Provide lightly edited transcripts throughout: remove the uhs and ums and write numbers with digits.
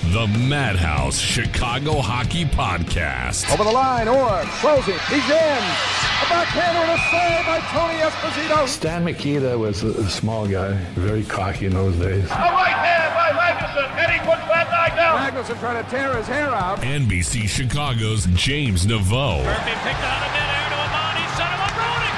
The Madhouse Chicago Hockey Podcast. Over the line, Orr, closing, he's in. A backhander and a save by Tony Esposito. Stan Mikita was a small guy, very cocky in those days. A right hand by Magnuson, and he puts that guy down. Magnuson trying to tear his hair out. NBC Chicago's James Naveau. Murphy picked out of midair to Amani, set him up, Roenick.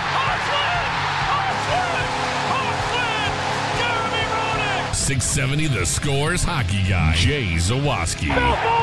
Hawksland! Jeremy Roenick! 670 The Score's hockey guy, Jay Zawaski.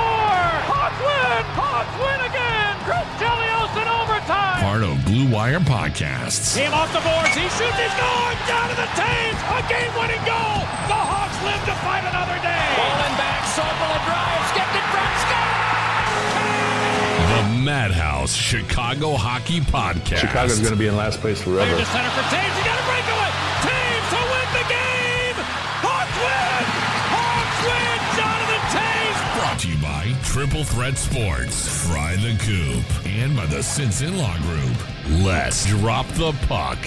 Hawks win again! Chris Chelios in overtime! Part of Blue Wire Podcasts. Team off the boards, he shoots, he scores! Down to the Taves, a game-winning goal! The Hawks live to fight another day! Pulling back, Sobel drives, skipped it from Scott! The Madhouse Chicago Hockey Podcast. Chicago's going to be in last place forever. Under center for Taves, he got a breakaway! Taves to win the game! Hawks win! Hawks win! Jonathan Taves! Brought to you by Triple Threat Sports, Fry the Coop, and by the Since In-Law Group. Let's drop the puck.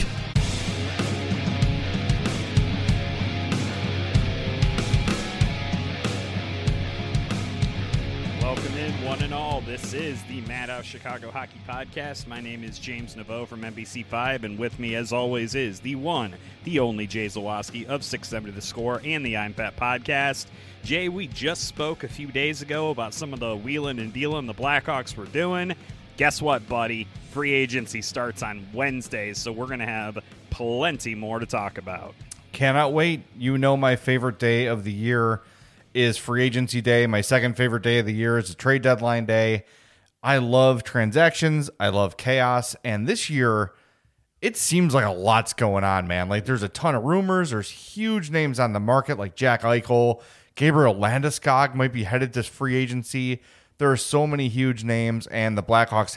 Welcome in, one and all. This is the Madhouse Chicago Hockey Podcast. My name is James Naveau from NBC5, and with me, as always, is the one, the only Jay Zawaski of 670 The Score and the I'm Fat Podcast. Jay, we just spoke a few days ago about some of the wheeling and dealing the Blackhawks were doing. Guess what, buddy? Free agency starts on Wednesday, so we're going to have plenty more to talk about. Cannot wait. You know my favorite day of the year is free agency day. My second favorite day of the year is the trade deadline day. I love transactions. I love chaos. And this year, it seems like a lot's going on, man. Like there's a ton of rumors. There's huge names on the market like Jack Eichel. Gabriel Landeskog might be headed to free agency. There are so many huge names, and the Blackhawks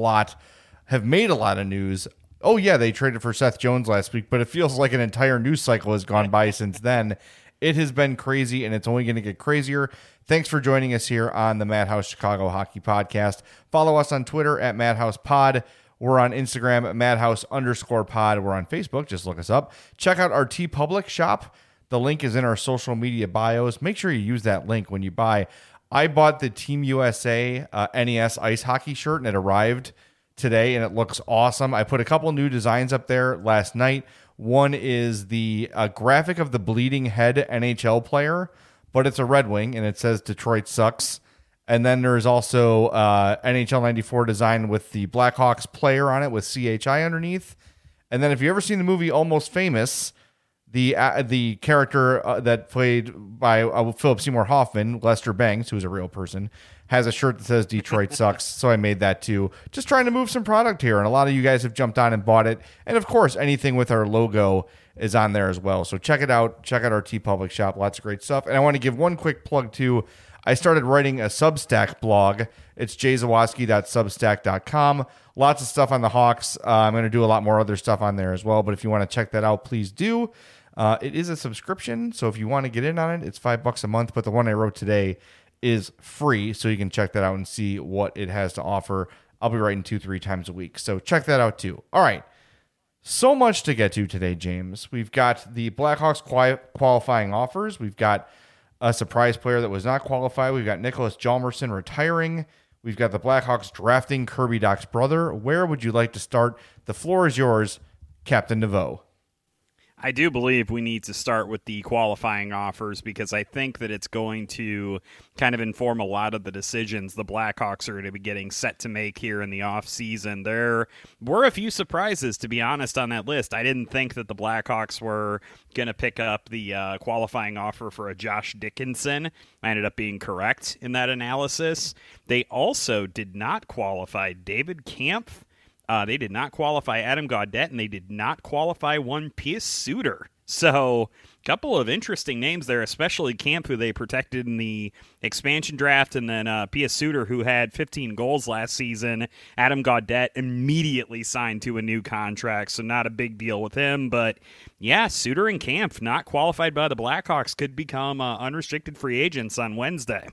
have made a lot of news. Oh, yeah, they traded for Seth Jones last week, but it feels like an entire news cycle has gone by since then. It has been crazy, and it's only going to get crazier. Thanks for joining us here on the Madhouse Chicago Hockey Podcast. Follow us on Twitter at MadhousePod. We're on Instagram at Madhouse_pod. We're on Facebook. Just look us up. Check out our TeePublic shop. The link is in our social media bios. Make sure you use that link when you buy. I bought the Team USA NES ice hockey shirt, and it arrived today, and it looks awesome. I put a couple new designs up there last night. One is the graphic of the bleeding head NHL player, but it's a Red Wing, and it says Detroit sucks. And then there's also NHL 94 design with the Blackhawks player on it with CHI underneath. And then if you've ever seen the movie Almost Famous, the character that played by Philip Seymour Hoffman, Lester Bangs, who's a real person, has a shirt that says Detroit sucks. So I made that too. Just trying to move some product here. And a lot of you guys have jumped on and bought it. And of course, anything with our logo is on there as well. So check it out. Check out our TeePublic shop. Lots of great stuff. And I want to give one quick plug too. I started writing a Substack blog. It's jayzawaski.substack.com. Lots of stuff on the Hawks. I'm going to do a lot more other stuff on there as well. But if you want to check that out, please do. It is a subscription, so if you want to get in on it, it's $5 a month. But the one I wrote today is free, so you can check that out and see what it has to offer. I'll be writing 2-3 times a week, so check that out too. All right, so much to get to today, James. We've got the Blackhawks qualifying offers. We've got a surprise player that was not qualified. We've got Nicholas Hjalmarsson retiring. We've got the Blackhawks drafting Kirby Dach's brother. Where would you like to start? The floor is yours, Captain Naveau. I do believe we need to start with the qualifying offers because I think that it's going to kind of inform a lot of the decisions the Blackhawks are going to be getting set to make here in the offseason. There were a few surprises, to be honest, on that list. I didn't think that the Blackhawks were going to pick up the qualifying offer for a Josh Dickinson. I ended up being correct in that analysis. They also did not qualify David Kampf. They did not qualify Adam Gaudette, and they did not qualify one Pius Suter. So, a couple of interesting names there, especially Camp, who they protected in the expansion draft, and then Pius Suter, who had 15 goals last season. Adam Gaudette immediately signed to a new contract, so not a big deal with him. But, yeah, Suter and Camp, not qualified by the Blackhawks, could become unrestricted free agents on Wednesday.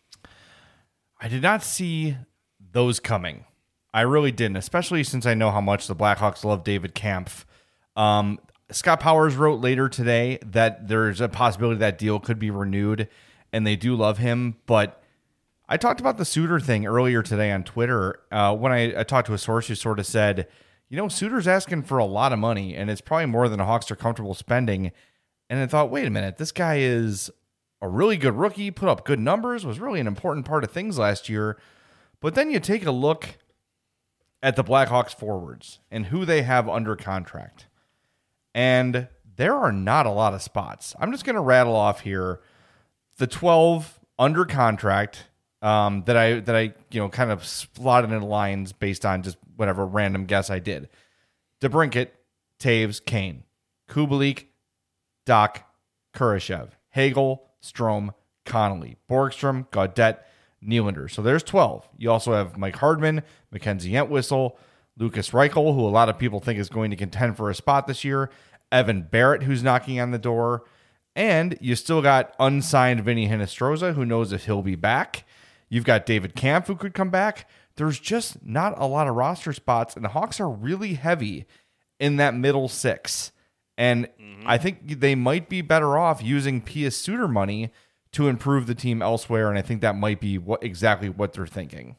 I did not see those coming. I really didn't, especially since I know how much the Blackhawks love David Kampf. Scott Powers wrote later today that there's a possibility that deal could be renewed. and they do love him. But I talked about the Suter thing earlier today on Twitter when I talked to a source who sort of said, Suter's asking for a lot of money, and it's probably more than the Hawks are comfortable spending. And I thought, wait a minute, this guy is a really good rookie, put up good numbers, was really an important part of things last year. But then you take a look at the Blackhawks forwards and who they have under contract. And there are not a lot of spots. I'm just going to rattle off here the 12 under contract that I kind of slotted in lines based on just whatever random guess I did. DeBrincat, Taves, Kane, Kubalik, Doc, Kurashev, Hagel, Strome, Connolly, Borgstrom, Gaudette, Nylander. So there's 12. You also have Mike Hardman, Mackenzie Entwistle, Lucas Reichel, who a lot of people think is going to contend for a spot this year, Evan Barrett, who's knocking on the door, and you still got unsigned Vinny Hinostroza, who knows if he'll be back. You've got David Kampf, who could come back. There's just not a lot of roster spots, and the Hawks are really heavy in that middle six. And I think they might be better off using Pius Suter money to improve the team elsewhere, and I think that might be exactly what they're thinking.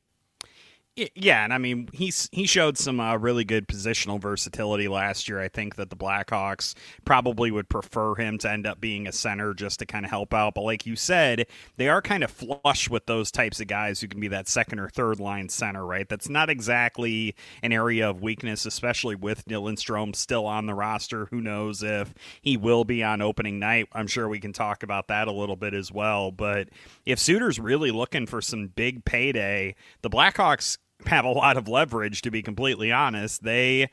Yeah, and I mean, he showed some really good positional versatility last year. I think that the Blackhawks probably would prefer him to end up being a center just to kind of help out. But like you said, they are kind of flush with those types of guys who can be that second or third line center, right? That's not exactly an area of weakness, especially with Dylan Strome still on the roster. Who knows if he will be on opening night? I'm sure we can talk about that a little bit as well. But if Suter's really looking for some big payday, the Blackhawks have a lot of leverage, to be completely honest. They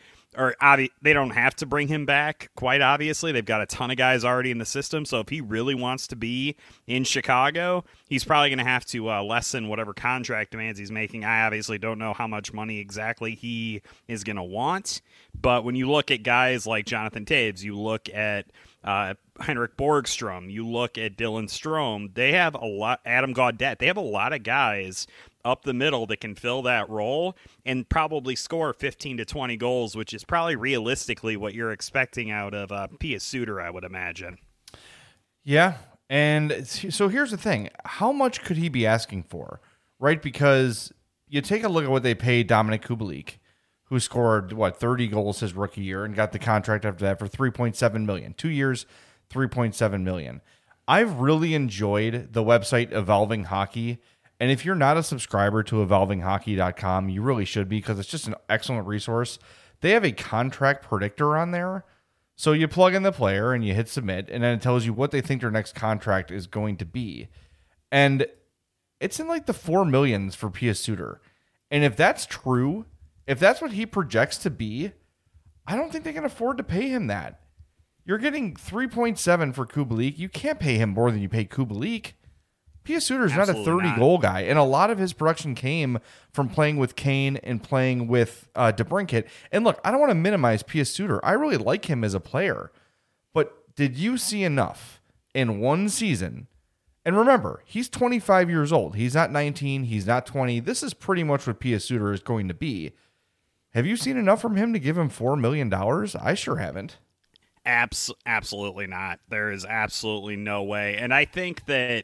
don't have to bring him back, quite obviously. They've got a ton of guys already in the system, so if he really wants to be in Chicago, he's probably going to have to lessen whatever contract demands he's making. I obviously don't know how much money exactly he is going to want, but when you look at guys like Jonathan Taves, you look at Henrik Borgstrom, you look at Dylan Strome, they have a lot, Adam Gaudette, they have a lot of guys up the middle that can fill that role and probably score 15 to 20 goals, which is probably realistically what you're expecting out of Pius Suter, I would imagine. Yeah, and so here's the thing. How much could he be asking for, right? Because you take a look at what they paid Dominic Kubalik, who scored, 30 goals his rookie year and got the contract after that for $3.7 million. 2 years, $3.7 million. I've really enjoyed the website Evolving Hockey. And if you're not a subscriber to evolvinghockey.com, you really should be, because it's just an excellent resource. They have a contract predictor on there. So you plug in the player and you hit submit, and then it tells you what they think their next contract is going to be. And it's in like the $4 million for Pius Suter. And if that's true, if that's what he projects to be, I don't think they can afford to pay him that. You're getting 3.7 for Kubalik. You can't pay him more than you pay Kubalik. Pius Suter's not a 30-goal guy, and a lot of his production came from playing with Kane and playing with DeBrincat. And look, I don't want to minimize Pius Suter. I really like him as a player. But did you see enough in one season? And remember, he's 25 years old. He's not 19. He's not 20. This is pretty much what Pius Suter is going to be. Have you seen enough from him to give him $4 million? I sure haven't. Absolutely not. There is absolutely no way. And I think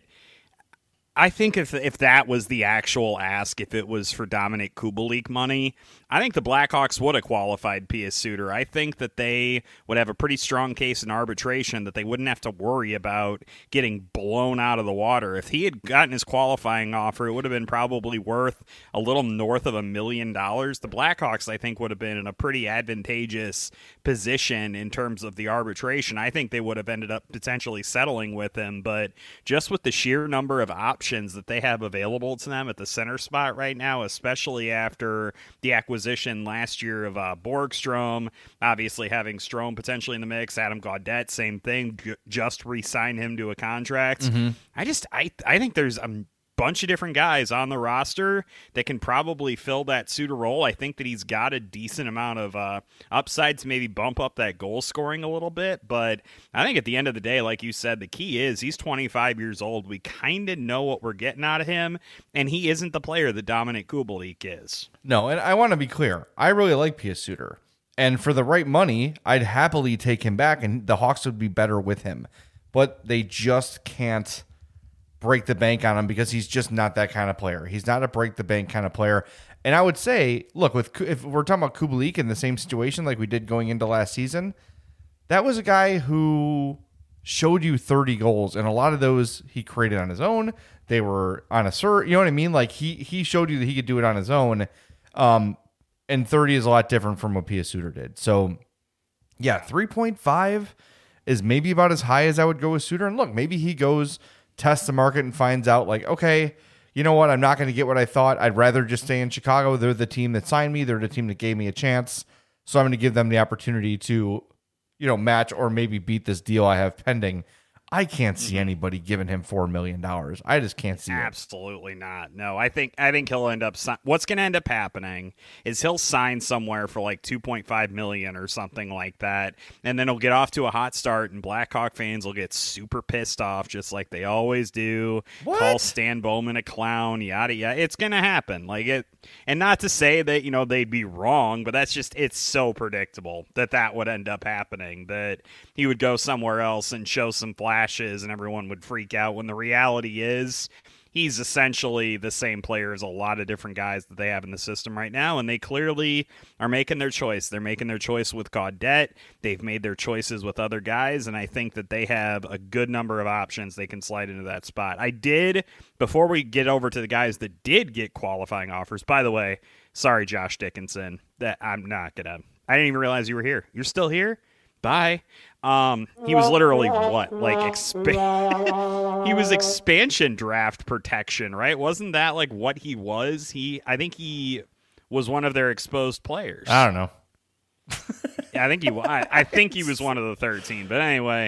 if that was the actual ask, if it was for Dominic Kubalik money, I think the Blackhawks would have qualified Pius Suter. I think that they would have a pretty strong case in arbitration that they wouldn't have to worry about getting blown out of the water. If he had gotten his qualifying offer, it would have been probably worth a little north of $1 million. The Blackhawks, I think, would have been in a pretty advantageous position in terms of the arbitration. I think they would have ended up potentially settling with him, but just with the sheer number of options that they have available to them at the center spot right now, especially after the acquisition last year of Borgstrom, obviously having Strome potentially in the mix, Adam Gaudette, same thing, just re-sign him to a contract. Mm-hmm. I think there's a bunch of different guys on the roster that can probably fill that Suter role. I think that he's got a decent amount of upside to maybe bump up that goal scoring a little bit, but I think at the end of the day, like you said, the key is he's 25 years old. We kind of know what we're getting out of him, and he isn't the player that Dominic Kubalik is. No, and I want to be clear. I really like Pius Suter, and for the right money, I'd happily take him back, and the Hawks would be better with him, but they just can't break the bank on him because he's just not that kind of player. He's not a break the bank kind of player. And I would say, look, if we're talking about Kubalik in the same situation like we did going into last season, that was a guy who showed you 30 goals, and a lot of those he created on his own. They were on a you know what I mean? Like he showed you that he could do it on his own. And 30 is a lot different from what Pia Suter did. So yeah, 3.5 is maybe about as high as I would go with Suter. And look, maybe he goes, tests the market and finds out like, okay, you know what? I'm not going to get what I thought. I'd rather just stay in Chicago. They're the team that signed me. They're the team that gave me a chance. So I'm going to give them the opportunity to, you know, match or maybe beat this deal I have pending. I can't see anybody giving him $4 million. I just can't see it. Absolutely not. No, I think he'll end up. What's going to end up happening is he'll sign somewhere for like $2.5 million or something like that, and then he'll get off to a hot start, and Blackhawk fans will get super pissed off, just like they always do. What? Call Stan Bowman a clown, yada yada. It's going to happen. Like it, and not to say that they'd be wrong, but it's so predictable that would end up happening. That he would go somewhere else and show some flashes and everyone would freak out, when the reality is he's essentially the same player as a lot of different guys that they have in the system right now, and they clearly are making their choice. They're making their choice with Gaudette. They've made their choices with other guys, and I think that they have a good number of options they can slide into that spot. Before we get over to the guys that did get qualifying offers, by the way, sorry, Josh Dickinson, that I didn't even realize you were here. You're still here? Bye. He was literally what? Like he was expansion draft protection, right? Wasn't that like what he was? I think he was one of their exposed players. I don't know. Yeah, I think he was one of the 13. But anyway,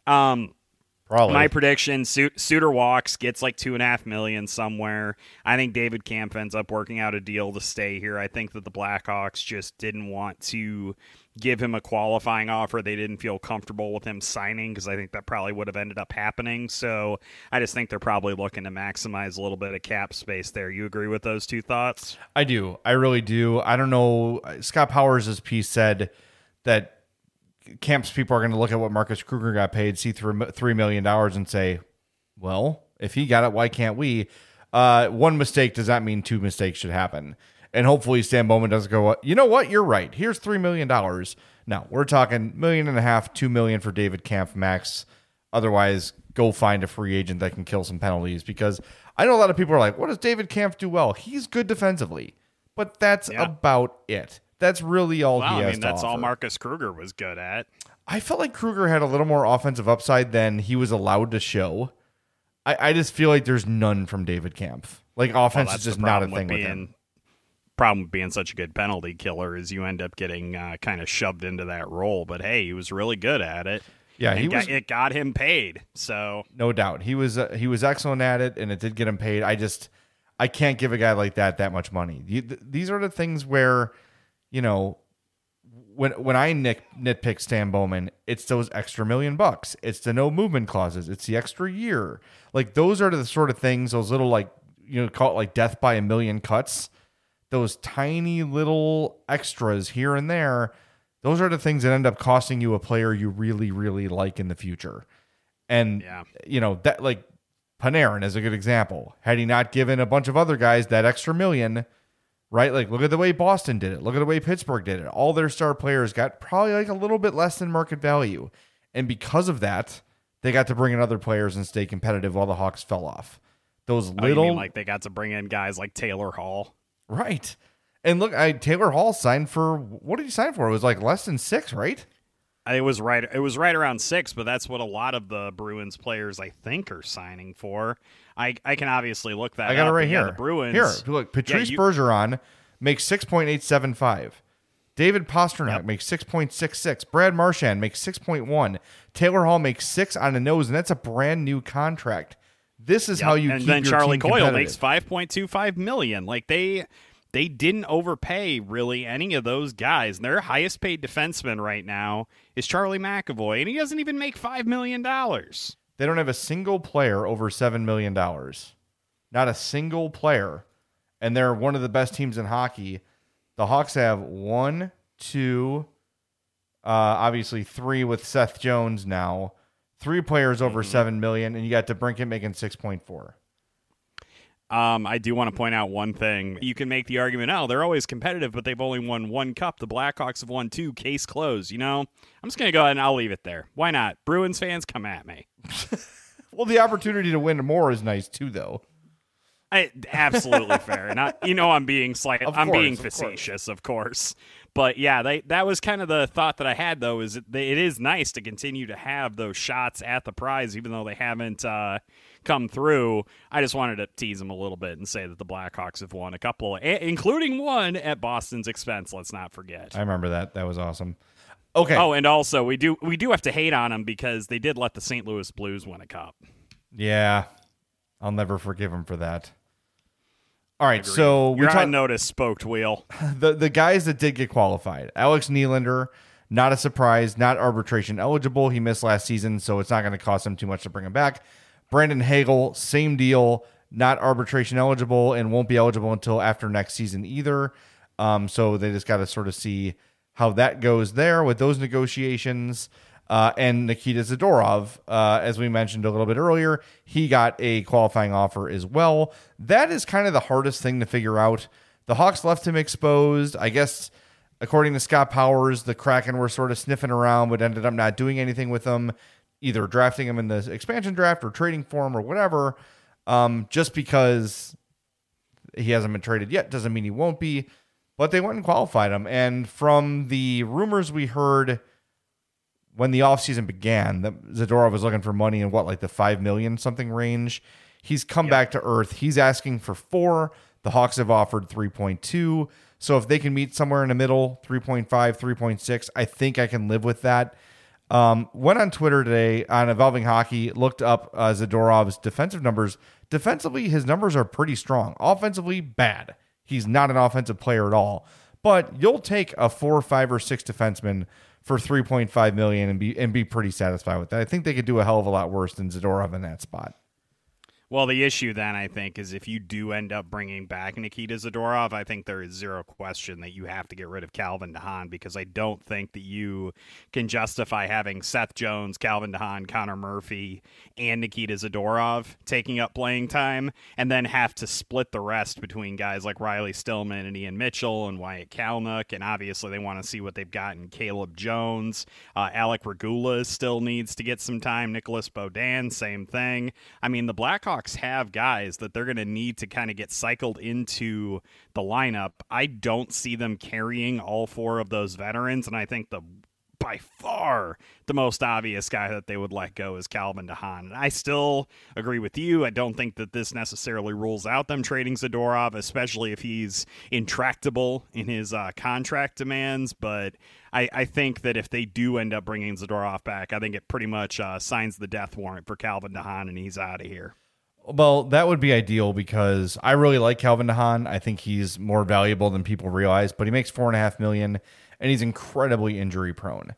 Probably. My prediction: Suter walks, gets like $2.5 million somewhere. I think David Kampf ends up working out a deal to stay here. I think that the Blackhawks just didn't want to give him a qualifying offer. They didn't feel comfortable with him signing, because I think that probably would have ended up happening. So I just think they're probably looking to maximize a little bit of cap space there. You agree with those two thoughts? I do. I really do. I don't know. Scott Powers' piece said that Camp's people are going to look at what Marcus Kruger got paid, see $3 million and say, well, if he got it, why can't we? One mistake does not mean two mistakes should happen. And hopefully Stan Bowman doesn't go, you know what? You're right. Here's $3 million. No, we're talking $1.5 million, $2 million for David Kampf max. Otherwise, go find a free agent that can kill some penalties, because I know a lot of people are like, what does David Kampf do well? He's good defensively, but that's about it. That's really all he has to that's offer. all Marcus Kruger was good at. I felt like Kruger had a little more offensive upside than he was allowed to show. I just feel like there's none from David Kampf. Like, offense is just not a thing with him. Problem with being such a good penalty killer is you end up getting kind of shoved into that role. But hey, he was really good at it. Yeah, it got him paid. So no doubt he was excellent at it, and it did get him paid. I can't give a guy like that much money. These are the things where, you know, when I nitpick Stan Bowman, it's those extra $1 million. It's the no movement clauses. It's the extra year. Like, those are the sort of things, those little, like, you know, call it like death by a million cuts. Those tiny little extras here and there. Those are the things that end up costing you a player you really, really like in the future. And, you know, that, like, Panarin is a good example. Had he not given a bunch of other guys that extra $1 million, right? Like, look at the way Boston did it. Look at the way Pittsburgh did it. All their star players got probably like a little bit less than market value. And because of that, they got to bring in other players and stay competitive while the Hawks fell off. Those little, you mean like they got to bring in guys like Taylor Hall? Right. And look, Taylor Hall signed for, what did he sign for? It was like less than 6, right? It was right around 6, but that's what a lot of the Bruins players, I think, are signing for. I can obviously look that up. I got it right here. The Bruins. Here, look, Patrice Bergeron makes 6.875. David Pastrnak makes 6.66. Brad Marchand makes 6.1. Taylor Hall makes 6 on the nose, and that's a brand new contract. This is how you keep your team competitive. And then Charlie Coyle makes $5.25 million. Like, they didn't overpay really any of those guys. Their highest paid defenseman right now is Charlie McAvoy, and he doesn't even make $5 million. They don't have a single player over $7 million. Not a single player. And they're one of the best teams in hockey. The Hawks have 1, 2, obviously 3 with Seth Jones now. 3 players over $7 million, and you got DeBrincat making 6.4. I do want to point out one thing. You can make the argument, they're always competitive, but they've only won 1 cup. The Blackhawks have won 2. Case closed. I'm just going to go ahead and I'll leave it there. Why not? Bruins fans, come at me. Well, the opportunity to win more is nice too, though. Absolutely fair. I'm being being facetious, of course. But yeah, that was kind of the thought that I had, though, is it is nice to continue to have those shots at the prize, even though they haven't come through. I just wanted to tease them a little bit and say that the Blackhawks have won a couple, including one at Boston's expense. Let's not forget. I remember that. That was awesome. Okay. Oh, and also we do have to hate on them because they did let the St. Louis Blues win a cup. Yeah, I'll never forgive them for that. All right, Agreed. so you're on notice, spoked wheel. The guys that did get qualified: Alex Nylander, not a surprise, not arbitration eligible. He missed last season, so it's not going to cost him too much to bring him back. Brandon Hagel, same deal, not arbitration eligible and won't be eligible until after next season either. So they just got to sort of see how that goes there with those negotiations. And Nikita Zadorov, as we mentioned a little bit earlier, he got a qualifying offer as well. That is kind of the hardest thing to figure out. The Hawks left him exposed. I guess, according to Scott Powers, the Kraken were sort of sniffing around, but ended up not doing anything with him, either drafting him in the expansion draft or trading for him or whatever. Just because he hasn't been traded yet doesn't mean he won't be. But they went and qualified him. And from the rumors we heard when the offseason began, that Zadorov was looking for money in like the $5 million something range. He's come back to earth. He's asking for 4. The Hawks have offered 3.2. So if they can meet somewhere in the middle, 3.5, 3.6, I think I can live with that. Went on Twitter today on Evolving Hockey, looked up Zadorov's defensive numbers. Defensively, his numbers are pretty strong. Offensively, bad. He's not an offensive player at all. But you'll take a 4, 5, or 6 defenseman for $3.5 million and be pretty satisfied with that. I think they could do a hell of a lot worse than Zadorov in that spot. Well, the issue then, I think, is if you do end up bringing back Nikita Zadorov, I think there is zero question that you have to get rid of Calvin DeHaan, because I don't think that you can justify having Seth Jones, Calvin DeHaan, Connor Murphy, and Nikita Zadorov taking up playing time, and then have to split the rest between guys like Riley Stillman and Ian Mitchell and Wyatt Kalynuk, and obviously they want to see what they've got in Caleb Jones. Alec Regula still needs to get some time. Nicholas Beaudin, same thing. I mean, the Blackhawks have guys that they're going to need to kind of get cycled into the lineup. I don't see them carrying all 4 of those veterans, and I think by far the most obvious guy that they would let go is Calvin DeHaan. And I still agree with you. I don't think that this necessarily rules out them trading Zadorov, especially if he's intractable in his contract demands. But I think that if they do end up bringing Zadorov back, I think it pretty much signs the death warrant for Calvin DeHaan, and he's out of here. Well, that would be ideal because I really like Calvin DeHaan. I think he's more valuable than people realize, but he makes $4.5 million and he's incredibly injury prone.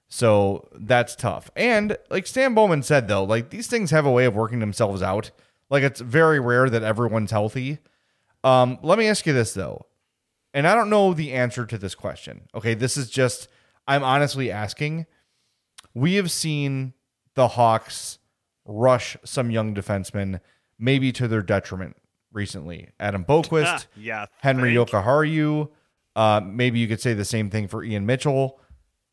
So that's tough. And like Stan Bowman said, though, like these things have a way of working themselves out. Like it's very rare that everyone's healthy. Let me ask you this, though. And I don't know the answer to this question. Okay, this is just, I'm honestly asking. We have seen the Hawks rush some young defensemen, maybe to their detriment recently. Adam Boquist, Henry Jokiharju. Maybe you could say the same thing for Ian Mitchell.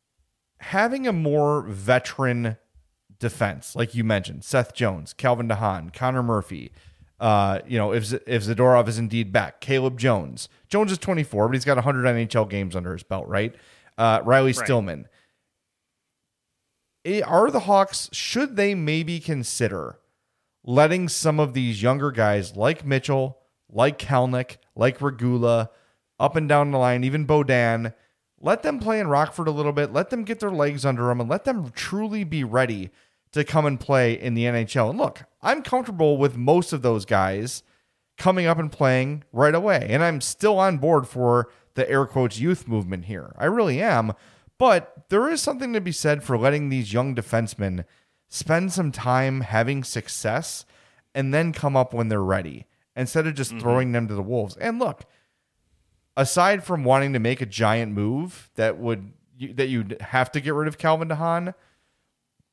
Having a more veteran defense, like you mentioned, Seth Jones, Calvin DeHaan, Connor Murphy, if Zadorov is indeed back, Caleb Jones. Jones is 24, but he's got 100 NHL games under his belt, right? Riley Stillman. Are the Hawks, should they maybe consider letting some of these younger guys like Mitchell, like Kalynuk, like Regula, up and down the line, even Beaudin, let them play in Rockford a little bit, let them get their legs under them, and let them truly be ready to come and play in the NHL. And look, I'm comfortable with most of those guys coming up and playing right away. And I'm still on board for the air quotes youth movement here. I really am. But there is something to be said for letting these young defensemen spend some time having success and then come up when they're ready instead of just throwing them to the wolves. And look, aside from wanting to make a giant move that you'd have to get rid of Calvin DeHaan,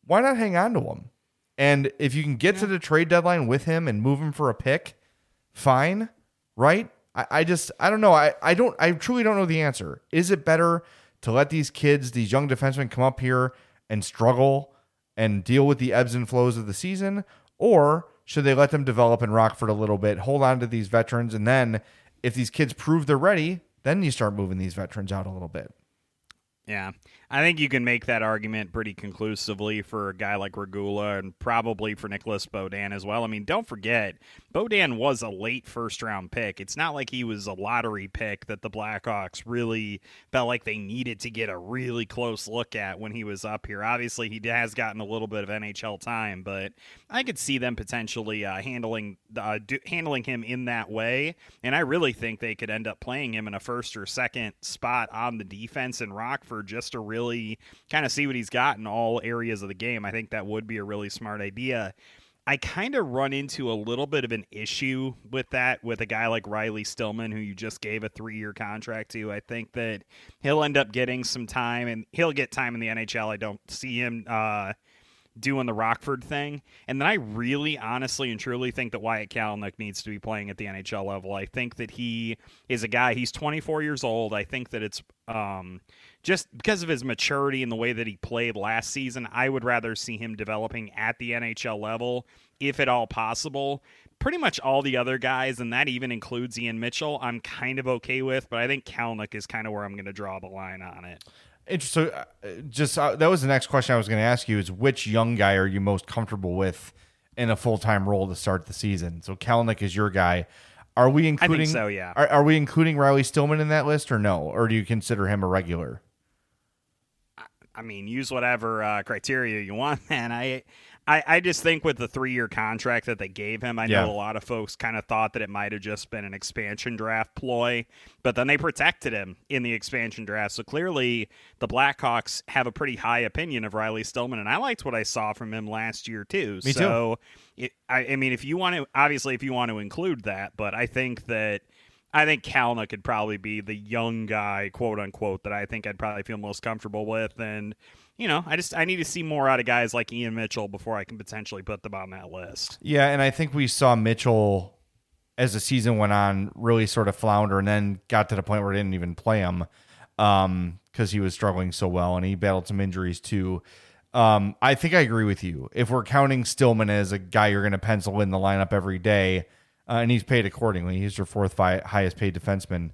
why not hang on to him? And if you can get to the trade deadline with him and move him for a pick, fine, right? I don't know. I truly don't know the answer. Is it better to let these kids, these young defensemen, come up here and struggle and deal with the ebbs and flows of the season? Or should they let them develop in Rockford a little bit, hold on to these veterans, and then if these kids prove they're ready, then you start moving these veterans out a little bit? Yeah, I think you can make that argument pretty conclusively for a guy like Regula and probably for Nicholas Beaudin as well. I mean, don't forget, Beaudin was a late first-round pick. It's not like he was a lottery pick that the Blackhawks really felt like they needed to get a really close look at when he was up here. Obviously, he has gotten a little bit of NHL time, but I could see them potentially handling him in that way, and I really think they could end up playing him in a first or second spot on the defense in Rockford just to really kind of see what he's got in all areas of the game. I think that would be a really smart idea. I kind of run into a little bit of an issue with that with a guy like Riley Stillman, who you just gave a 3-year contract to. I think that he'll end up getting some time, and he'll get time in the NHL. I don't see him doing the Rockford thing. And then I really honestly and truly think that Wyatt Kalynuk needs to be playing at the NHL level. I think that he is a guy, he's 24 years old. I think that it's just because of his maturity and the way that he played last season, I would rather see him developing at the NHL level, if at all possible. Pretty much all the other guys, and that even includes Ian Mitchell, I'm kind of okay with, but I think Kalynuk is kind of where I'm going to draw the line on it. So, that was the next question I was going to ask you: is which young guy are you most comfortable with in a full-time role to start the season? So, Kalynuk is your guy. Are we including? I think so, yeah. Are we including Riley Stillman in that list, or no? Or do you consider him a regular? I mean, use whatever criteria you want, man. I just think with the 3-year contract that they gave him, I know a lot of folks kind of thought that it might have just been an expansion draft ploy, but then they protected him in the expansion draft. So clearly the Blackhawks have a pretty high opinion of Riley Stillman, and I liked what I saw from him last year too. Me too. I mean, if you want to include that, but I think Kalynuk could probably be the young guy, quote unquote, that I think I'd probably feel most comfortable with. And, you know, I need to see more out of guys like Ian Mitchell before I can potentially put them on that list. Yeah, and I think we saw Mitchell, as the season went on, really sort of flounder and then got to the point where they didn't even play him because he was struggling so well, and he battled some injuries too. I think I agree with you. If we're counting Stillman as a guy you're going to pencil in the lineup every day, and he's paid accordingly, he's your fourth highest paid defenseman,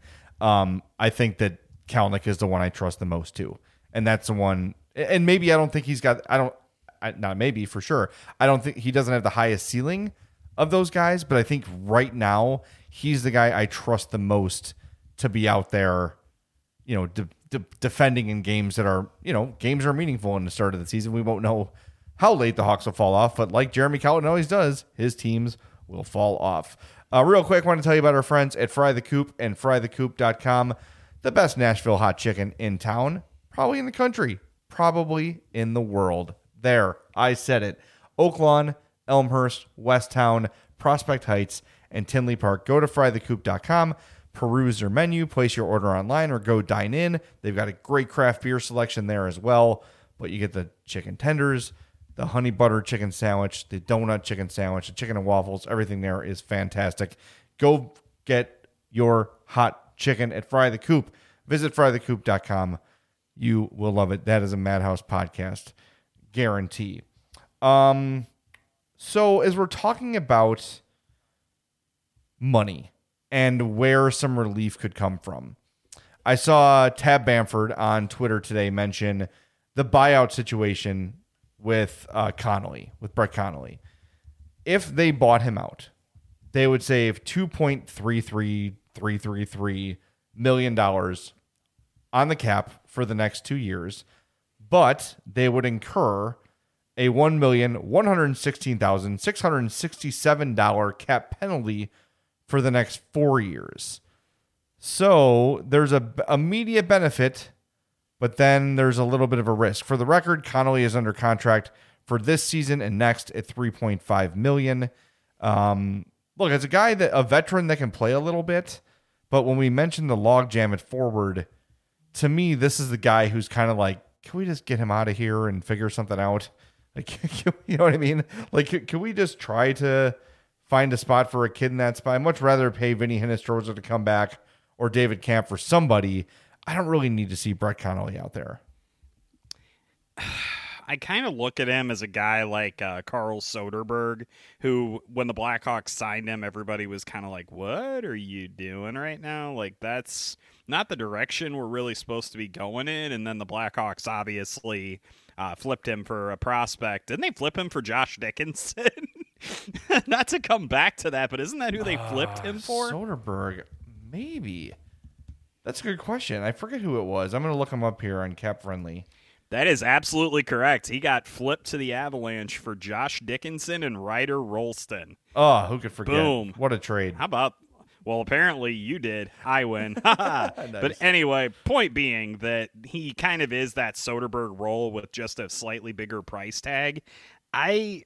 I think that Kalynuk is the one I trust the most too. And that's the one, and maybe I don't think he's got, not maybe, for sure, I don't think he doesn't have the highest ceiling of those guys, but I think right now he's the guy I trust the most to be out there, you know, defending in games that are, you know, games are meaningful in the start of the season. We won't know how late the Hawks will fall off, but like Jeremy Colliton always does, his teams will fall off. Real quick, I want to tell you about our friends at Fry the Coop and frythecoop.com, the best Nashville hot chicken in town, probably in the country, probably in the world. There, I said it. Oak Lawn, Elmhurst, Westtown, Prospect Heights, and Tinley Park. Go to frythecoop.com, peruse their menu, place your order online, or go dine in. They've got a great craft beer selection there as well, but you get the chicken tenders, the honey butter chicken sandwich, the donut chicken sandwich, the chicken and waffles. Everything there is fantastic. Go get your hot chicken at Fry the Coop. Visit frythecoop.com. You will love it. That is a Madhouse podcast guarantee. So as we're talking about money and where some relief could come from, I saw Tab Bamford on Twitter today mention the buyout situation with Connolly, with Brett Connolly. If they bought him out, they would save $2.33333 million on the cap for the next 2 years, but they would incur a $1,116,667 cap penalty for the next 4 years. So there's a immediate benefit, but then there's a little bit of a risk. For the record, Connolly is under contract for this season and next at $3.5 million. Look, as a veteran that can play a little bit, but when we mentioned the logjam at forward, to me, this is the guy who's kind of like, can we just get him out of here and figure something out? Like, you know what I mean? Like, can we just try to find a spot for a kid in that spot? I'd much rather pay Vinny Hinostroza to come back or David Camp for somebody. I don't really need to see Brett Connolly out there. I kind of look at him as a guy like Carl Soderberg, who, when the Blackhawks signed him, everybody was kind of like, what are you doing right now? Like, that's not the direction we're really supposed to be going in. And then the Blackhawks obviously flipped him for a prospect. Didn't they flip him for Josh Dickinson? Not to come back to that, but isn't that who they flipped him for? Soderberg, maybe. That's a good question. I forget who it was. I'm going to look him up here on Cap Friendly. That is absolutely correct. He got flipped to the Avalanche for Josh Dickinson and Ryder Rolston. Oh, who could forget? Boom. What a trade. How about... Well, apparently you did. I win. Nice. But anyway, point being that he kind of is that Soderberg role with just a slightly bigger price tag. I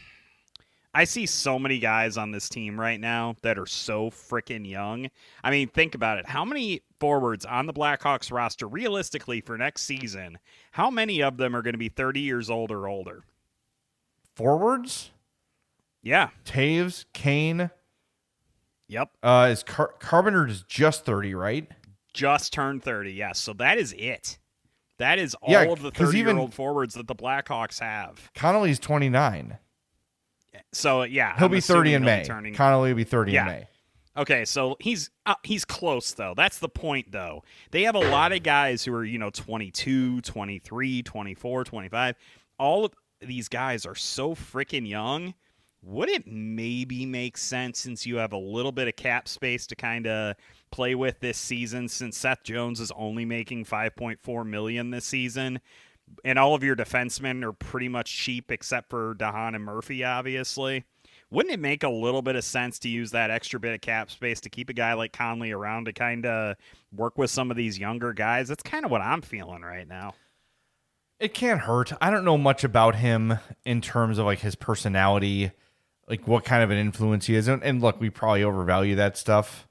see so many guys on this team right now that are so freaking young. I mean, think about it. How many forwards on the Blackhawks roster, realistically, for next season, how many of them are going to be 30 years old or older? Forwards? Yeah. Taves, Kane. Yep. Is Carpenter is just 30, right? Just turned 30, yes. So that is it. That is all of the 30-year-old forwards that the Blackhawks have. Connolly's 29. So, yeah. He'll be 30 in May. Connolly will be 30 in May. Okay, so he's close, though. That's the point, though. They have a lot of guys who are, 22, 23, 24, 25. All of these guys are so freaking young. Would it maybe make sense, since you have a little bit of cap space to kind of play with this season, since Seth Jones is only making $5.4 million this season, and all of your defensemen are pretty much cheap except for DeHaan and Murphy, obviously? Wouldn't it make a little bit of sense to use that extra bit of cap space to keep a guy like Conley around to kind of work with some of these younger guys? That's kind of what I'm feeling right now. It can't hurt. I don't know much about him in terms of like his personality, like what kind of an influence he is. And look, we probably overvalue that stuff.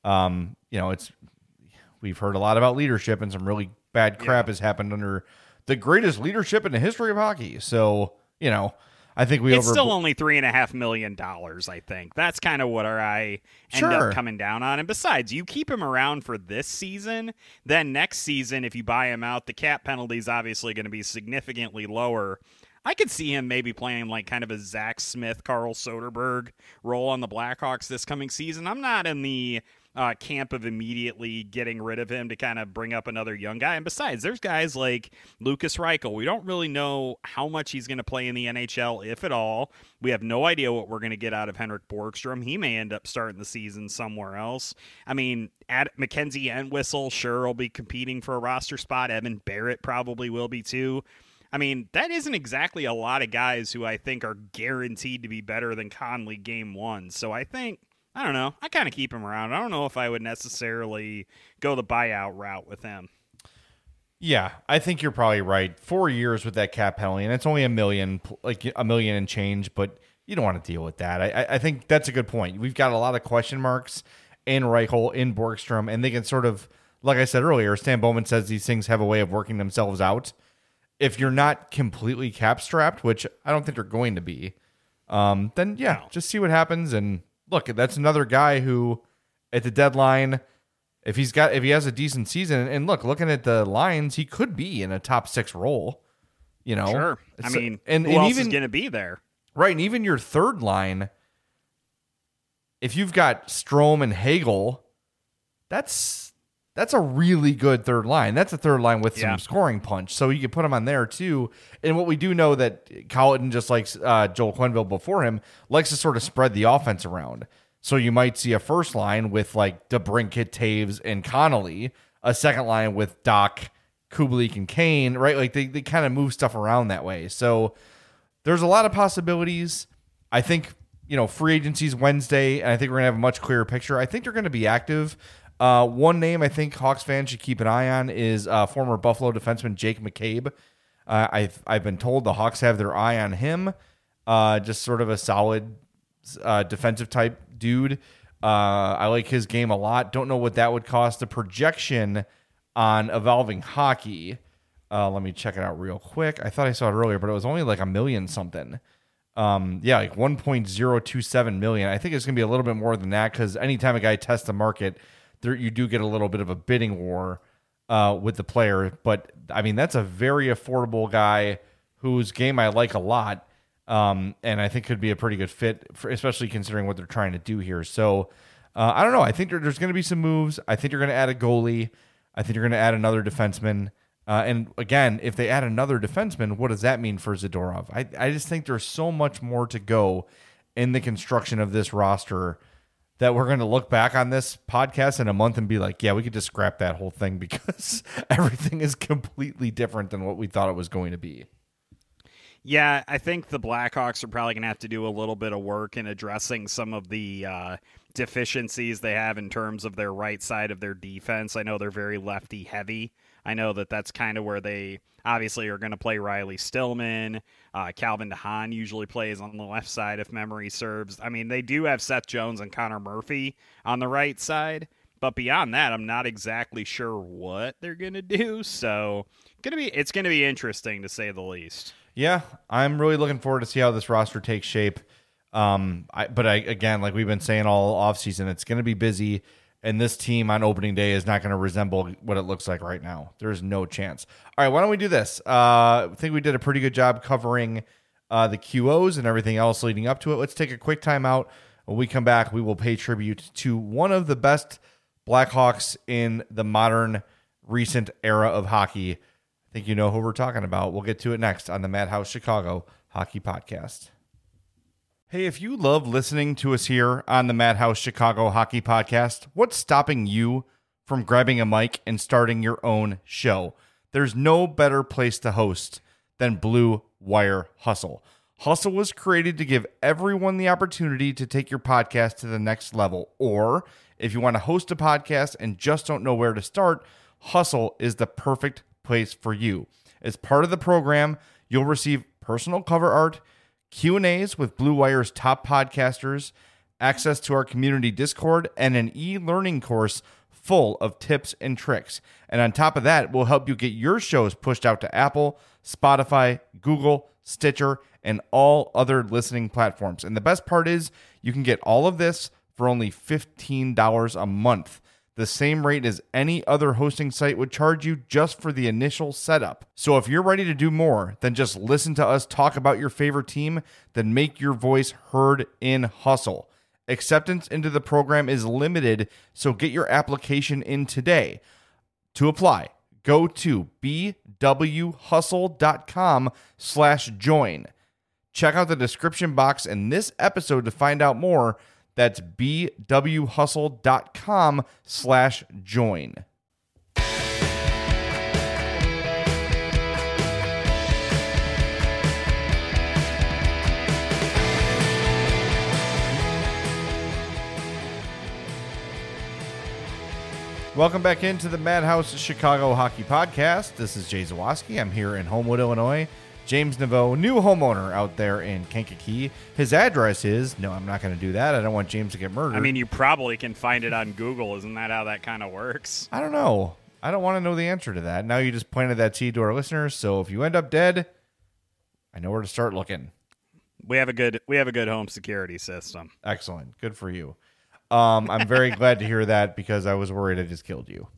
We've heard a lot about leadership, and some really bad crap has happened under the greatest leadership in the history of hockey. So, I think it's still only $3.5 million, I think. That's kind of what our eye end up coming down on. And besides, you keep him around for this season, then next season, if you buy him out, the cap penalty is obviously going to be significantly lower. I could see him maybe playing like kind of a Zach Smith, Carl Soderberg role on the Blackhawks this coming season. I'm not in the camp of immediately getting rid of him to kind of bring up another young guy. And besides, there's guys like Lucas Reichel. We don't really know how much he's going to play in the NHL, if at all. We have no idea what we're going to get out of Henrik Borgstrom. He may end up starting the season somewhere else. I mean, Mackenzie Entwistle sure will be competing for a roster spot. Evan Barrett probably will be too. I mean, that isn't exactly a lot of guys who I think are guaranteed to be better than Conley game one. So I think, I don't know, I kind of keep him around. I don't know if I would necessarily go the buyout route with him. Yeah, I think you're probably right. 4 years with that cap penalty, and it's only $1 million, like $1 million and change, but you don't want to deal with that. I think that's a good point. We've got a lot of question marks in Reichel, in Borgstrom, and they can sort of, like I said earlier, Stan Bowman says these things have a way of working themselves out. If you're not completely cap strapped, which I don't think they're going to be, then just see what happens. And look, that's another guy who at the deadline, if he has a decent season, and looking at the lines, he could be in a top 6 role, Sure. I mean, who else is going to be there? Right. And even your third line, if you've got Strome and Hagel, that's a really good third line. That's a third line with some scoring punch. So you can put him on there too. And what we do know that Colliton, just like Joel Quenneville before him, likes to sort of spread the offense around. So you might see a first line with like DeBrincat, Taves, and Connolly, a second line with Doc, Kubalik, and Kane, right? Like they kind of move stuff around that way. So there's a lot of possibilities. I think, free agency's Wednesday, and I think we're going to have a much clearer picture. I think they're going to be active. One name I think Hawks fans should keep an eye on is former Buffalo defenseman Jake McCabe. I've been told the Hawks have their eye on him. Just sort of a solid defensive type dude. I like his game a lot. Don't know what that would cost. The projection on Evolving Hockey Let me check it out real quick. I thought I saw it earlier, but it was only like $1 million something. Yeah, like 1.027 million. I think it's going to be a little bit more than that because anytime a guy tests the market, you do get a little bit of a bidding war with the player. But I mean, that's a very affordable guy whose game I like a lot, and I think could be a pretty good fit, especially considering what they're trying to do here. So I don't know. I think there's going to be some moves. I think you're going to add a goalie. I think you're going to add another defenseman. And again, if they add another defenseman, what does that mean for Zadorov? I just think there's so much more to go in the construction of this roster that we're going to look back on this podcast in a month and be like, yeah, we could just scrap that whole thing because everything is completely different than what we thought it was going to be. Yeah, I think the Blackhawks are probably going to have to do a little bit of work in addressing some of the deficiencies they have in terms of their right side of their defense. I know they're very lefty heavy. I know that's kind of where they obviously are going to play Riley Stillman. Calvin DeHaan usually plays on the left side if memory serves. I mean, they do have Seth Jones and Connor Murphy on the right side. But beyond that, I'm not exactly sure what they're going to do. So it's going to be interesting to say the least. Yeah, I'm really looking forward to see how this roster takes shape. Again, like we've been saying all offseason, it's going to be busy, and this team on opening day is not going to resemble what it looks like right now. There's no chance. All right, why don't we do this? I think we did a pretty good job covering the QOs and everything else leading up to it. Let's take a quick time out. When we come back, we will pay tribute to one of the best Blackhawks in the modern recent era of hockey. I think you know who we're talking about. We'll get to it next on the Madhouse Chicago Hockey Podcast. Hey, if you love listening to us here on the Madhouse Chicago Hockey Podcast, what's stopping you from grabbing a mic and starting your own show? There's no better place to host than Blue Wire Hustle. Hustle was created to give everyone the opportunity to take your podcast to the next level. Or if you want to host a podcast and just don't know where to start, Hustle is the perfect place for you. As part of the program, you'll receive personal cover art, Q&As with Blue Wire's top podcasters, access to our community Discord, and an e-learning course full of tips and tricks. And on top of that, we'll help you get your shows pushed out to Apple, Spotify, Google, Stitcher, and all other listening platforms. And the best part is you can get all of this for only $15 a month, the same rate as any other hosting site would charge you just for the initial setup. So if you're ready to do more than just listen to us talk about your favorite team, then make your voice heard in Hustle. Acceptance into the program is limited, so get your application in today. To apply, go to bwhustle.com/join. Check out the description box in this episode to find out more. That's bwhustle.com/join. Welcome back into the Madhouse Chicago Hockey Podcast. This is Jay Zawaski. I'm here in Homewood, Illinois. James Naveau, new homeowner out there in Kankakee. His address is... No, I'm not going to do that. I don't want James to get murdered. I mean, you probably can find it on Google. Isn't that how that kind of works? I don't know. I don't want to know the answer to that. Now you just planted that seed to our listeners, so if you end up dead, I know where to start looking. We have a good home security system. Excellent. Good for you. I'm very glad to hear that because I was worried I just killed you.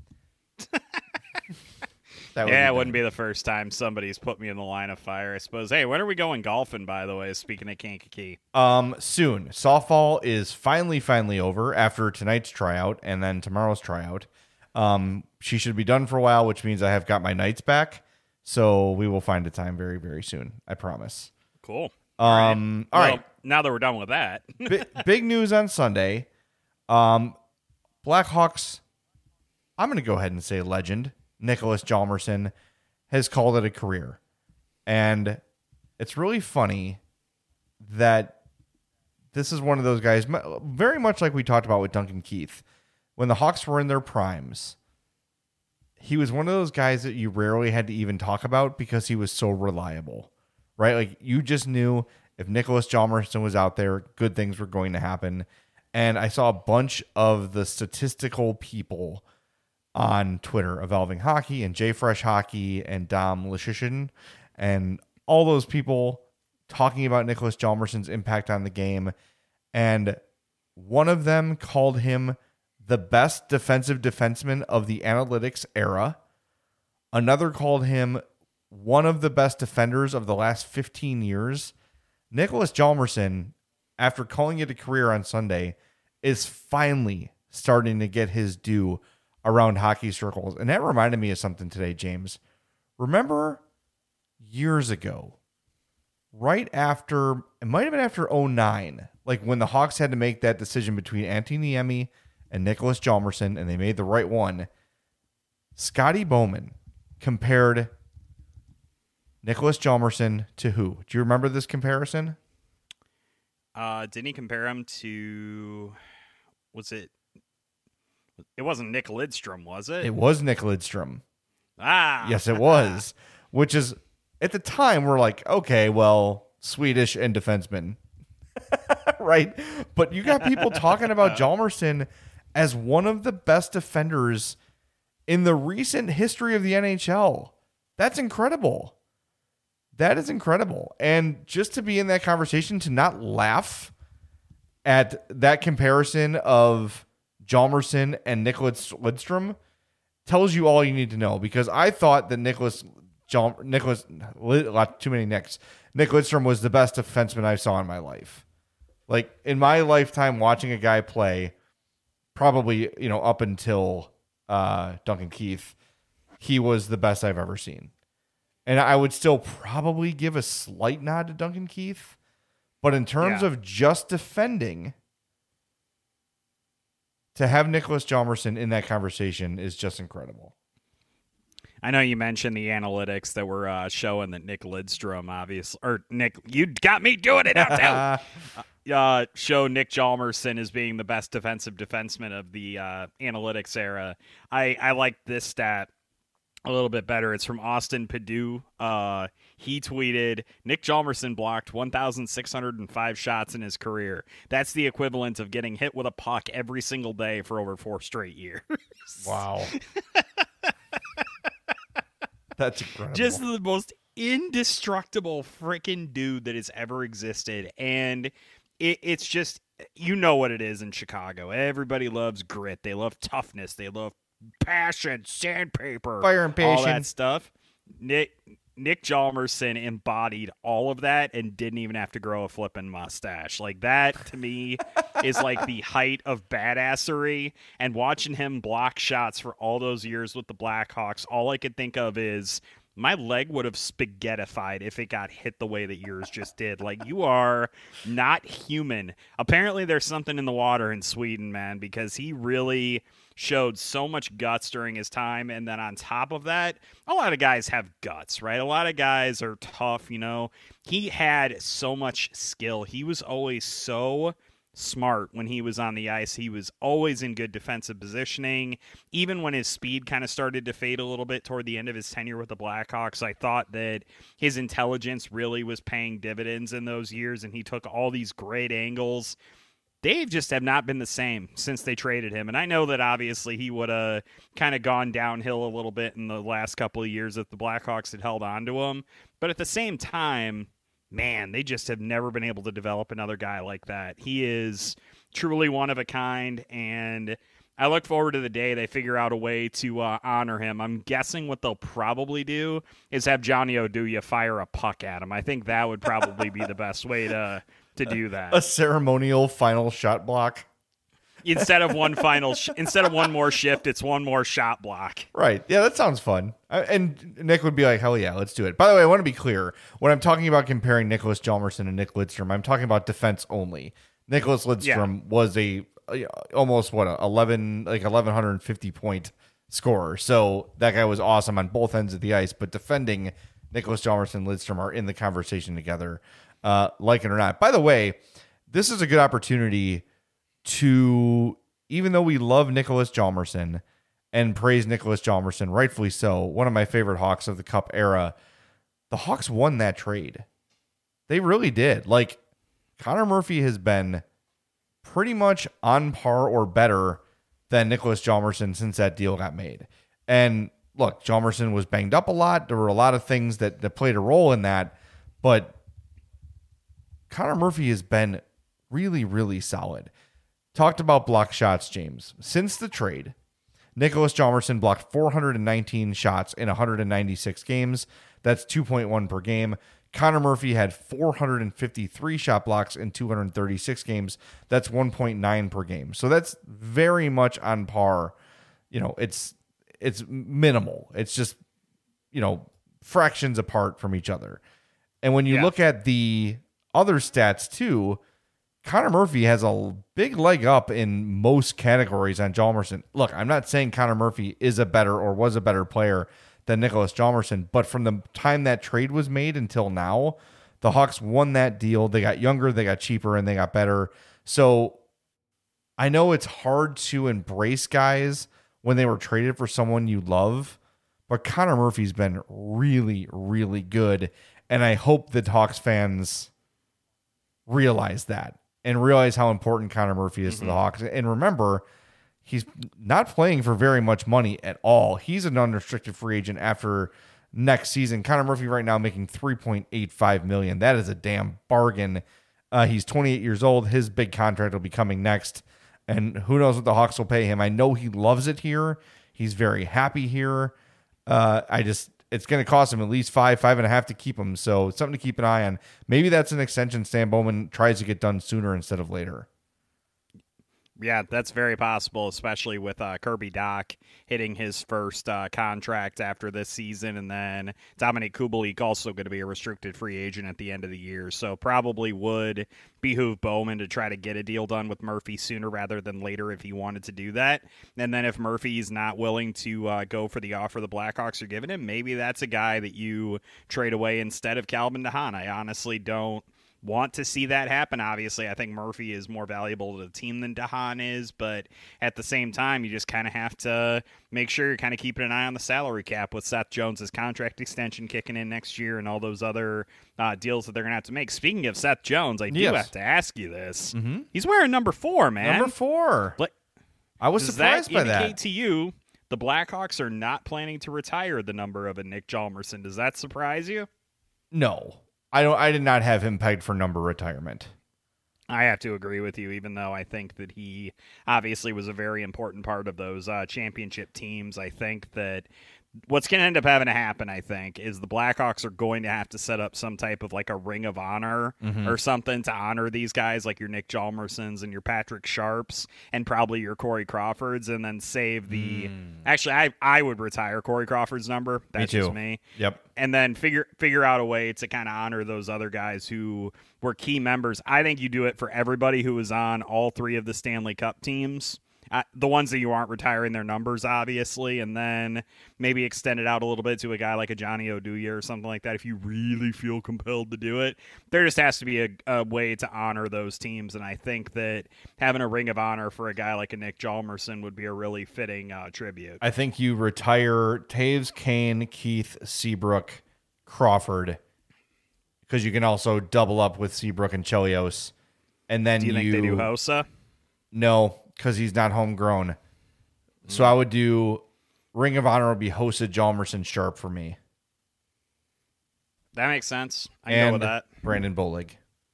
It wouldn't be the first time somebody's put me in the line of fire, I suppose. Hey, when are we going golfing, by the way, speaking of Kankakee? Soon. Softball is finally over after tonight's tryout and then tomorrow's tryout. She should be done for a while, which means I have got my nights back. So we will find a time very, very soon. I promise. Cool. All right. Now that we're done with that. Big news on Sunday. Blackhawks, I'm going to go ahead and say legend, Nicholas Hjalmarsson, has called it a career. And it's really funny that this is one of those guys, very much like we talked about with Duncan Keith. When the Hawks were in their primes, he was one of those guys that you rarely had to even talk about because he was so reliable, right? Like you just knew if Nicholas Hjalmarsson was out there, good things were going to happen. And I saw a bunch of the statistical people on Twitter, Evolving Hockey and JFresh Hockey and Dom Lishishin, and all those people talking about Nicholas Hjalmarsson's impact on the game. And one of them called him the best defensive defenseman of the analytics era. Another called him one of the best defenders of the last 15 years. Nicholas Hjalmarsson, after calling it a career on Sunday, is finally starting to get his due around hockey circles. And that reminded me of something today, James. Remember years ago, right after, it might have been after 2009, like when the Hawks had to make that decision between Antti Niemi and Nicholas Hjalmarsson, and they made the right one. Scotty Bowman compared Nicholas Hjalmarsson to who? Do you remember this comparison? Didn't he compare him to, it wasn't Nick Lidstrom, was it? It was Nick Lidstrom. Yes, it was. Which is, at the time, we're like, okay, well, Swedish and defenseman. Right? But you got people talking about Hjalmarsson as one of the best defenders in the recent history of the NHL. That's incredible. That is incredible. And just to be in that conversation, to not laugh at that comparison of Hjalmarsson and Nicholas Lidstrom tells you all you need to know, because I thought that Nick Lidstrom was the best defenseman I saw in my life. Like, in my lifetime, watching a guy play, probably, up until Duncan Keith, he was the best I've ever seen. And I would still probably give a slight nod to Duncan Keith, but in terms of just defending, to have Nicholas Hjalmarsson in that conversation is just incredible. I know you mentioned the analytics that were showing that Nick Lidstrom, obviously, or Nick, you got me doing it now too. Show Nick Hjalmarsson as being the best defensive defenseman of the analytics era. I like this stat a little bit better. It's from Austin Padu. He tweeted, Nick Hjalmarsson blocked 1,605 shots in his career. That's the equivalent of getting hit with a puck every single day for over 4 straight years. Wow. That's incredible. Just the most indestructible freaking dude that has ever existed. And it's just, you know what it is in Chicago. Everybody loves grit. They love toughness. They love passion, sandpaper, fire and passion, all that stuff. Nick Hjalmarsson embodied all of that and didn't even have to grow a flippin' mustache. Like, that to me is like the height of badassery. And watching him block shots for all those years with the Blackhawks, all I could think of is my leg would have spaghettified if it got hit the way that yours just did. Like, you are not human. Apparently there's something in the water in Sweden, man, because he really showed so much guts during his time. And then on top of that, a lot of guys have guts, right? A lot of guys are tough, He had so much skill. He was always so smart when he was on the ice. He was always in good defensive positioning. Even when his speed kind of started to fade a little bit toward the end of his tenure with the Blackhawks, I thought that his intelligence really was paying dividends in those years, and he took all these great angles. They just have not been the same since they traded him. And I know that obviously he would have kind of gone downhill a little bit in the last couple of years if the Blackhawks had held on to him. But at the same time, man, they just have never been able to develop another guy like that. He is truly one of a kind, and I look forward to the day they figure out a way to honor him. I'm guessing what they'll probably do is have Johnny Oduya fire a puck at him. I think that would probably be the best way to do that. A ceremonial final shot block. Instead of one more shift, it's one more shot block. Right. Yeah, that sounds fun. And Nick would be like, hell yeah, let's do it. By the way, I want to be clear. When I'm talking about comparing Nicholas Hjalmarsson and Nick Lidstrom, I'm talking about defense only. Nicholas Lidstrom was almost 1,150 point scorer. So that guy was awesome on both ends of the ice. But defending Nicholas Hjalmarsson and Lidstrom are in the conversation together, like it or not. By the way, this is a good opportunity to, even though we love Nicholas Hjalmarsson and praise Nicholas Hjalmarsson, rightfully so, one of my favorite Hawks of the Cup era, the Hawks won that trade. They really did. Like, Connor Murphy has been pretty much on par or better than Nicholas Hjalmarsson since that deal got made. And look, Hjalmarsson was banged up a lot. There were a lot of things that played a role in that, but Connor Murphy has been really, really solid. Talked about block shots, James. Since the trade, Nicholas Hjalmarsson blocked 419 shots in 196 games. That's 2.1 per game. Connor Murphy had 453 shot blocks in 236 games. That's 1.9 per game. So that's very much on par. It's minimal. It's just, fractions apart from each other. And when you look at the other stats too, Connor Murphy has a big leg up in most categories on Hjalmarsson. Look, I'm not saying Connor Murphy is a better or was a better player than Nicholas Hjalmarsson, but from the time that trade was made until now, the Hawks won that deal. They got younger, they got cheaper, and they got better. So I know it's hard to embrace guys when they were traded for someone you love, but Connor Murphy's been really, really good, and I hope that Hawks fans realize that and realize how important Connor Murphy is to the Hawks. And remember, he's not playing for very much money at all. He's an unrestricted free agent after next season. Connor Murphy right now making $3.85 million. That is a damn bargain. He's 28 years old. His big contract will be coming next, and who knows what the Hawks will pay him. I know he loves it here. He's very happy here. It's going to cost him at least five and a half to keep him. So it's something to keep an eye on. Maybe that's an extension Stan Bowman tries to get done sooner instead of later. Yeah, that's very possible, especially with Kirby Dach hitting his first contract after this season, and then Dominik Kubalik also going to be a restricted free agent at the end of the year. So probably would behoove Bowman to try to get a deal done with Murphy sooner rather than later if he wanted to do that. And then if Murphy's not willing to go for the offer the Blackhawks are giving him, maybe that's a guy that you trade away instead of Calvin DeHaan. I honestly don't want to see that happen. Obviously, I think Murphy is more valuable to the team than DeHaan is, but at the same time, you just kind of have to make sure you're kind of keeping an eye on the salary cap with Seth Jones' contract extension kicking in next year and all those other deals that they're going to have to make. Speaking of Seth Jones, I do have to ask you this. Mm-hmm. He's wearing number 4, man. Number 4. I was surprised by that. Does that indicate to you the Blackhawks are not planning to retire the number of a Nick Hjalmarsson? Does that surprise you? No. I did not have him pegged for number retirement. I have to agree with you, even though I think that he obviously was a very important part of those championship teams. I think that what's going to end up having to happen, I think, is the Blackhawks are going to have to set up some type of like a ring of honor or something to honor these guys, like your Nick Hjalmarssons and your Patrick Sharps and probably your Corey Crawfords, and then save the... Actually, I would retire Corey Crawford's number. That's just me. Yep. And then figure out a way to kind of honor those other guys who were key members. I think you do it for everybody who was on all 3 of the Stanley Cup teams. The ones that you aren't retiring their numbers, obviously, and then maybe extend it out a little bit to a guy like a Johnny Oduya or something like that if you really feel compelled to do it. There just has to be a way to honor those teams, and I think that having a ring of honor for a guy like a Nick Hjalmarsson would be a really fitting tribute. I think you retire Taves, Kane, Keith, Seabrook, Crawford, because you can also double up with Seabrook and Chelios. And then do you think they do Hossa? No, because he's not homegrown. So I would do Ring of Honor would be Hossa, Hjalmarsson, Sharp for me. That makes sense. I can go with that. Brandon Bolig.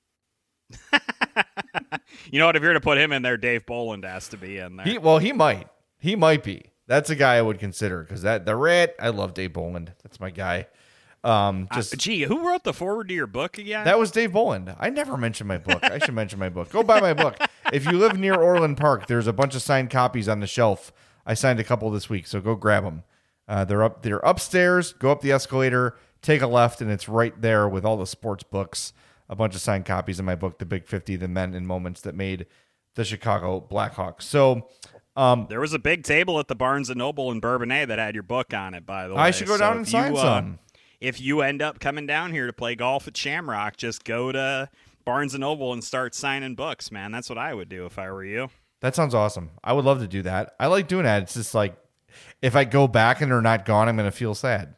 You know what? If you're to put him in there, Dave Bolland has to be in there. He might. He might be. That's a guy I would consider because I love Dave Bolland. That's my guy. Who wrote the forward to your book again? That was Dave Bolland. I never mentioned my book. I should mention my book. Go buy my book. If you live near Orland Park, there's a bunch of signed copies on the shelf. I signed a couple this week, so go grab them. They're upstairs. Go up the escalator, take a left, and it's right there with all the sports books. A bunch of signed copies of my book, The Big 50, The Men and Moments That Made the Chicago Blackhawks. So there was a big table at the Barnes & Noble in Bourbonnais that had your book on it, by the way. I should go down and sign some. If you end up coming down here to play golf at Shamrock, just go to Barnes & Noble and start signing books, man. That's what I would do if I were you. That sounds awesome. I would love to do that. I like doing that. It's just like, if I go back and they're not gone, I'm going to feel sad.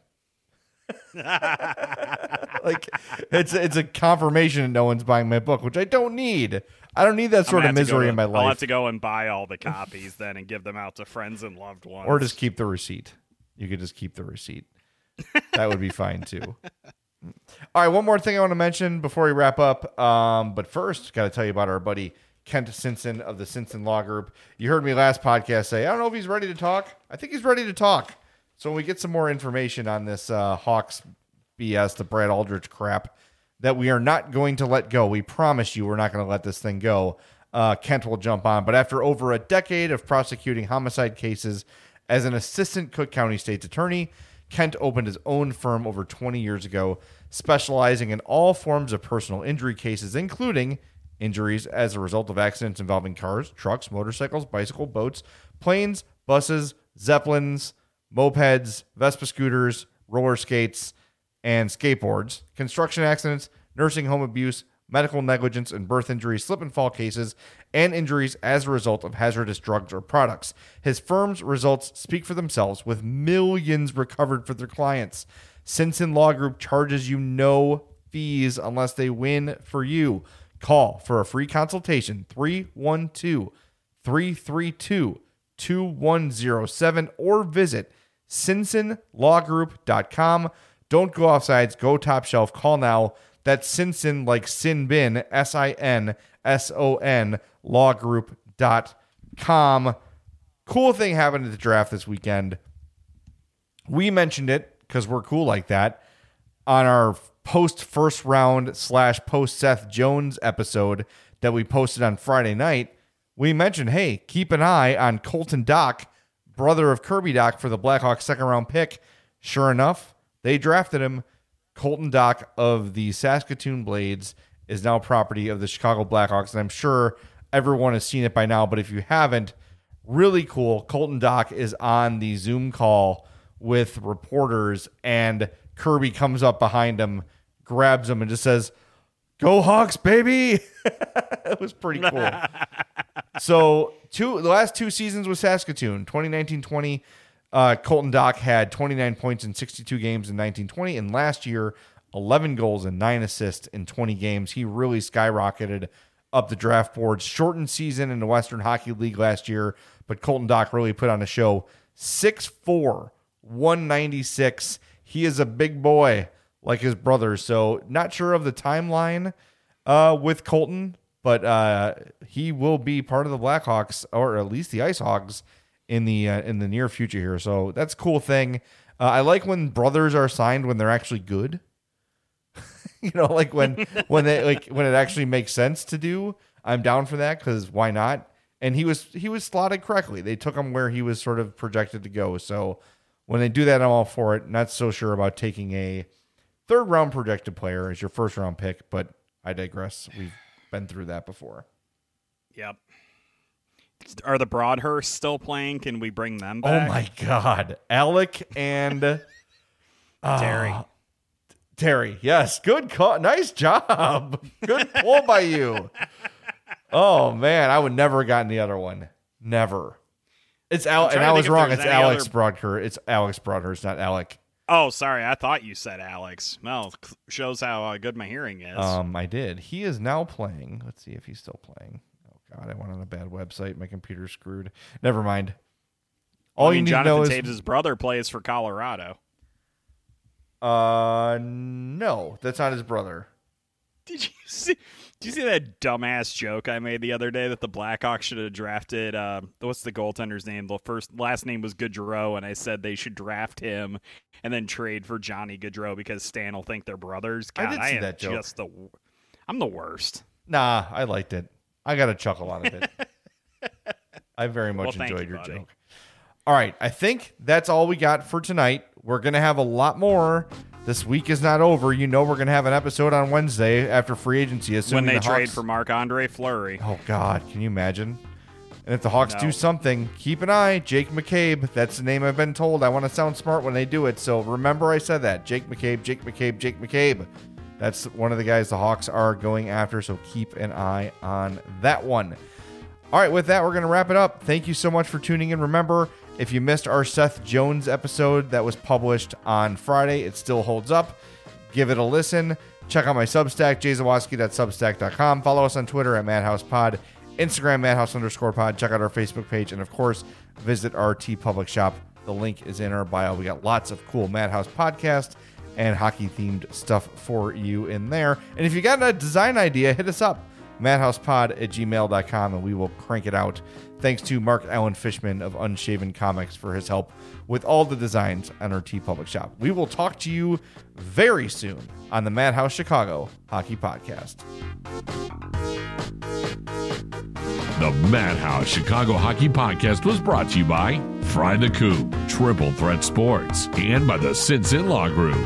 Like, it's a confirmation that no one's buying my book, which I don't need. I don't need that sort of misery in my life. I'll have to go and buy all the copies then and give them out to friends and loved ones. Or just keep the receipt. You could just keep the receipt. That would be fine too. All right, one more thing I want to mention before we wrap up. But first, got to tell you about our buddy Kent Simpson of the Simpson Law Group. You heard me last podcast say, I don't know if he's ready to talk. I think he's ready to talk. So when we get some more information on this Hawks BS, the Brad Aldrich crap, that we are not going to let go. We promise you we're not going to let this thing go. Kent will jump on. But after over a decade of prosecuting homicide cases as an assistant Cook County State's attorney, Kent opened his own firm over 20 years ago, specializing in all forms of personal injury cases, including injuries as a result of accidents involving cars, trucks, motorcycles, bicycle, boats, planes, buses, zeppelins, mopeds, Vespa scooters, roller skates, and skateboards, construction accidents, nursing home abuse, medical negligence and birth injuries, slip and fall cases, and injuries as a result of hazardous drugs or products. His firm's results speak for themselves, with millions recovered for their clients. Simpson Law Group charges you no fees unless they win for you. Call for a free consultation, 312-332-2107, or visit SinsonLawGroup.com. Don't go offsides. Go top shelf. Call now. That's Sinson, like Sin Bin, SINSON, lawgroup.com. Cool thing happened at the draft this weekend. We mentioned it because we're cool like that on our post first round / post Seth Jones episode that we posted on Friday night. We mentioned, hey, keep an eye on Colton Dock, brother of Kirby Dock, for the Blackhawks second round pick. Sure enough, they drafted him. Colton Dock of the Saskatoon Blades is now property of the Chicago Blackhawks, and I'm sure everyone has seen it by now, but if you haven't, really cool. Colton Dock is on the Zoom call with reporters, and Kirby comes up behind him, grabs him, and just says, "Go Hawks, baby!" It was pretty cool. So the last two seasons with Saskatoon, 2019-20, Colton Dock had 29 points in 62 games in 19-20, and last year, 11 goals and 9 assists in 20 games. He really skyrocketed up the draft boards. Shortened season in the Western Hockey League last year, but Colton Dock really put on a show. 6'4", 196. He is a big boy like his brother, so not sure of the timeline with Colton, but he will be part of the Blackhawks, or at least the Ice Hogs, in the near future here. So that's a cool thing. I like when brothers are signed when they're actually good. Like when it actually makes sense to do. I'm down for that, because why not? And he was slotted correctly. They took him where he was sort of projected to go. So when they do that, I'm all for it. Not so sure about taking a third round projected player as your first round pick, but I digress. We've been through that before. Yep. Are the Broadhurst still playing? Can we bring them back? Oh my God. Alec and Terry. Yes. Good call. Nice job. Good pull by you. Oh man. I would never have gotten the other one. Never. It's Alec. And I was wrong. It's Alex Broadhurst. It's Alex Broadhurst, not Alec. Oh, sorry. I thought you said Alex. Well, shows how good my hearing is. I did. He is now playing. Let's see if he's still playing. God, I went on a bad website. My computer's screwed. Never mind. All you need to know is Jonathan Taves' brother plays for Colorado. No, that's not his brother. Did you see that dumbass joke I made the other day that the Blackhawks should have drafted? What's the goaltender's name? Last name was Gaudreau, and I said they should draft him and then trade for Johnny Gaudreau because Stan will think they're brothers. God, I did see that joke. I'm the worst. Nah, I liked it. I got a chuckle out of it. I very much enjoyed your joke. All right. I think that's all we got for tonight. We're going to have a lot more. This week is not over. We're going to have an episode on Wednesday after free agency. When they trade for Marc-Andre Fleury. Oh, God. Can you imagine? And if the Hawks do something, keep an eye. Jake McCabe. That's the name I've been told. I want to sound smart when they do it. So remember I said that. Jake McCabe. That's one of the guys the Hawks are going after, so keep an eye on that one. All right, with that, we're going to wrap it up. Thank you so much for tuning in. Remember, if you missed our Seth Jones episode that was published on Friday, it still holds up. Give it a listen. Check out my Substack, jzawoski.substack.com. Follow us on Twitter at MadhousePod, Instagram Madhouse_pod. Check out our Facebook page, and of course, visit our TeePublic shop. The link is in our bio. We got lots of cool Madhouse podcast and hockey-themed stuff for you in there. And if you got a design idea, hit us up, madhousepod@gmail.com, and we will crank it out. Thanks to Mark Allen Fishman of Unshaven Comics for his help with all the designs on our TeePublic shop. We will talk to you very soon on the Madhouse Chicago Hockey Podcast. The Madhouse Chicago Hockey Podcast was brought to you by Fry the Coop, Triple Threat Sports, and by the Sinson Law Group.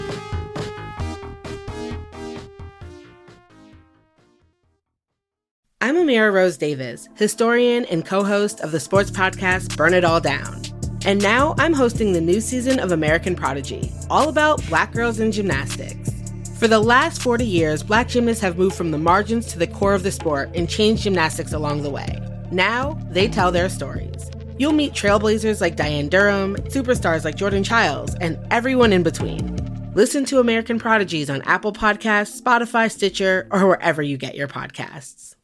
I'm Amira Rose Davis, historian and co-host of the sports podcast Burn It All Down. And now I'm hosting the new season of American Prodigy, all about Black girls in gymnastics. For the last 40 years, Black gymnasts have moved from the margins to the core of the sport and changed gymnastics along the way. Now, they tell their stories. You'll meet trailblazers like Diane Durham, superstars like Jordan Childs, and everyone in between. Listen to American Prodigies on Apple Podcasts, Spotify, Stitcher, or wherever you get your podcasts.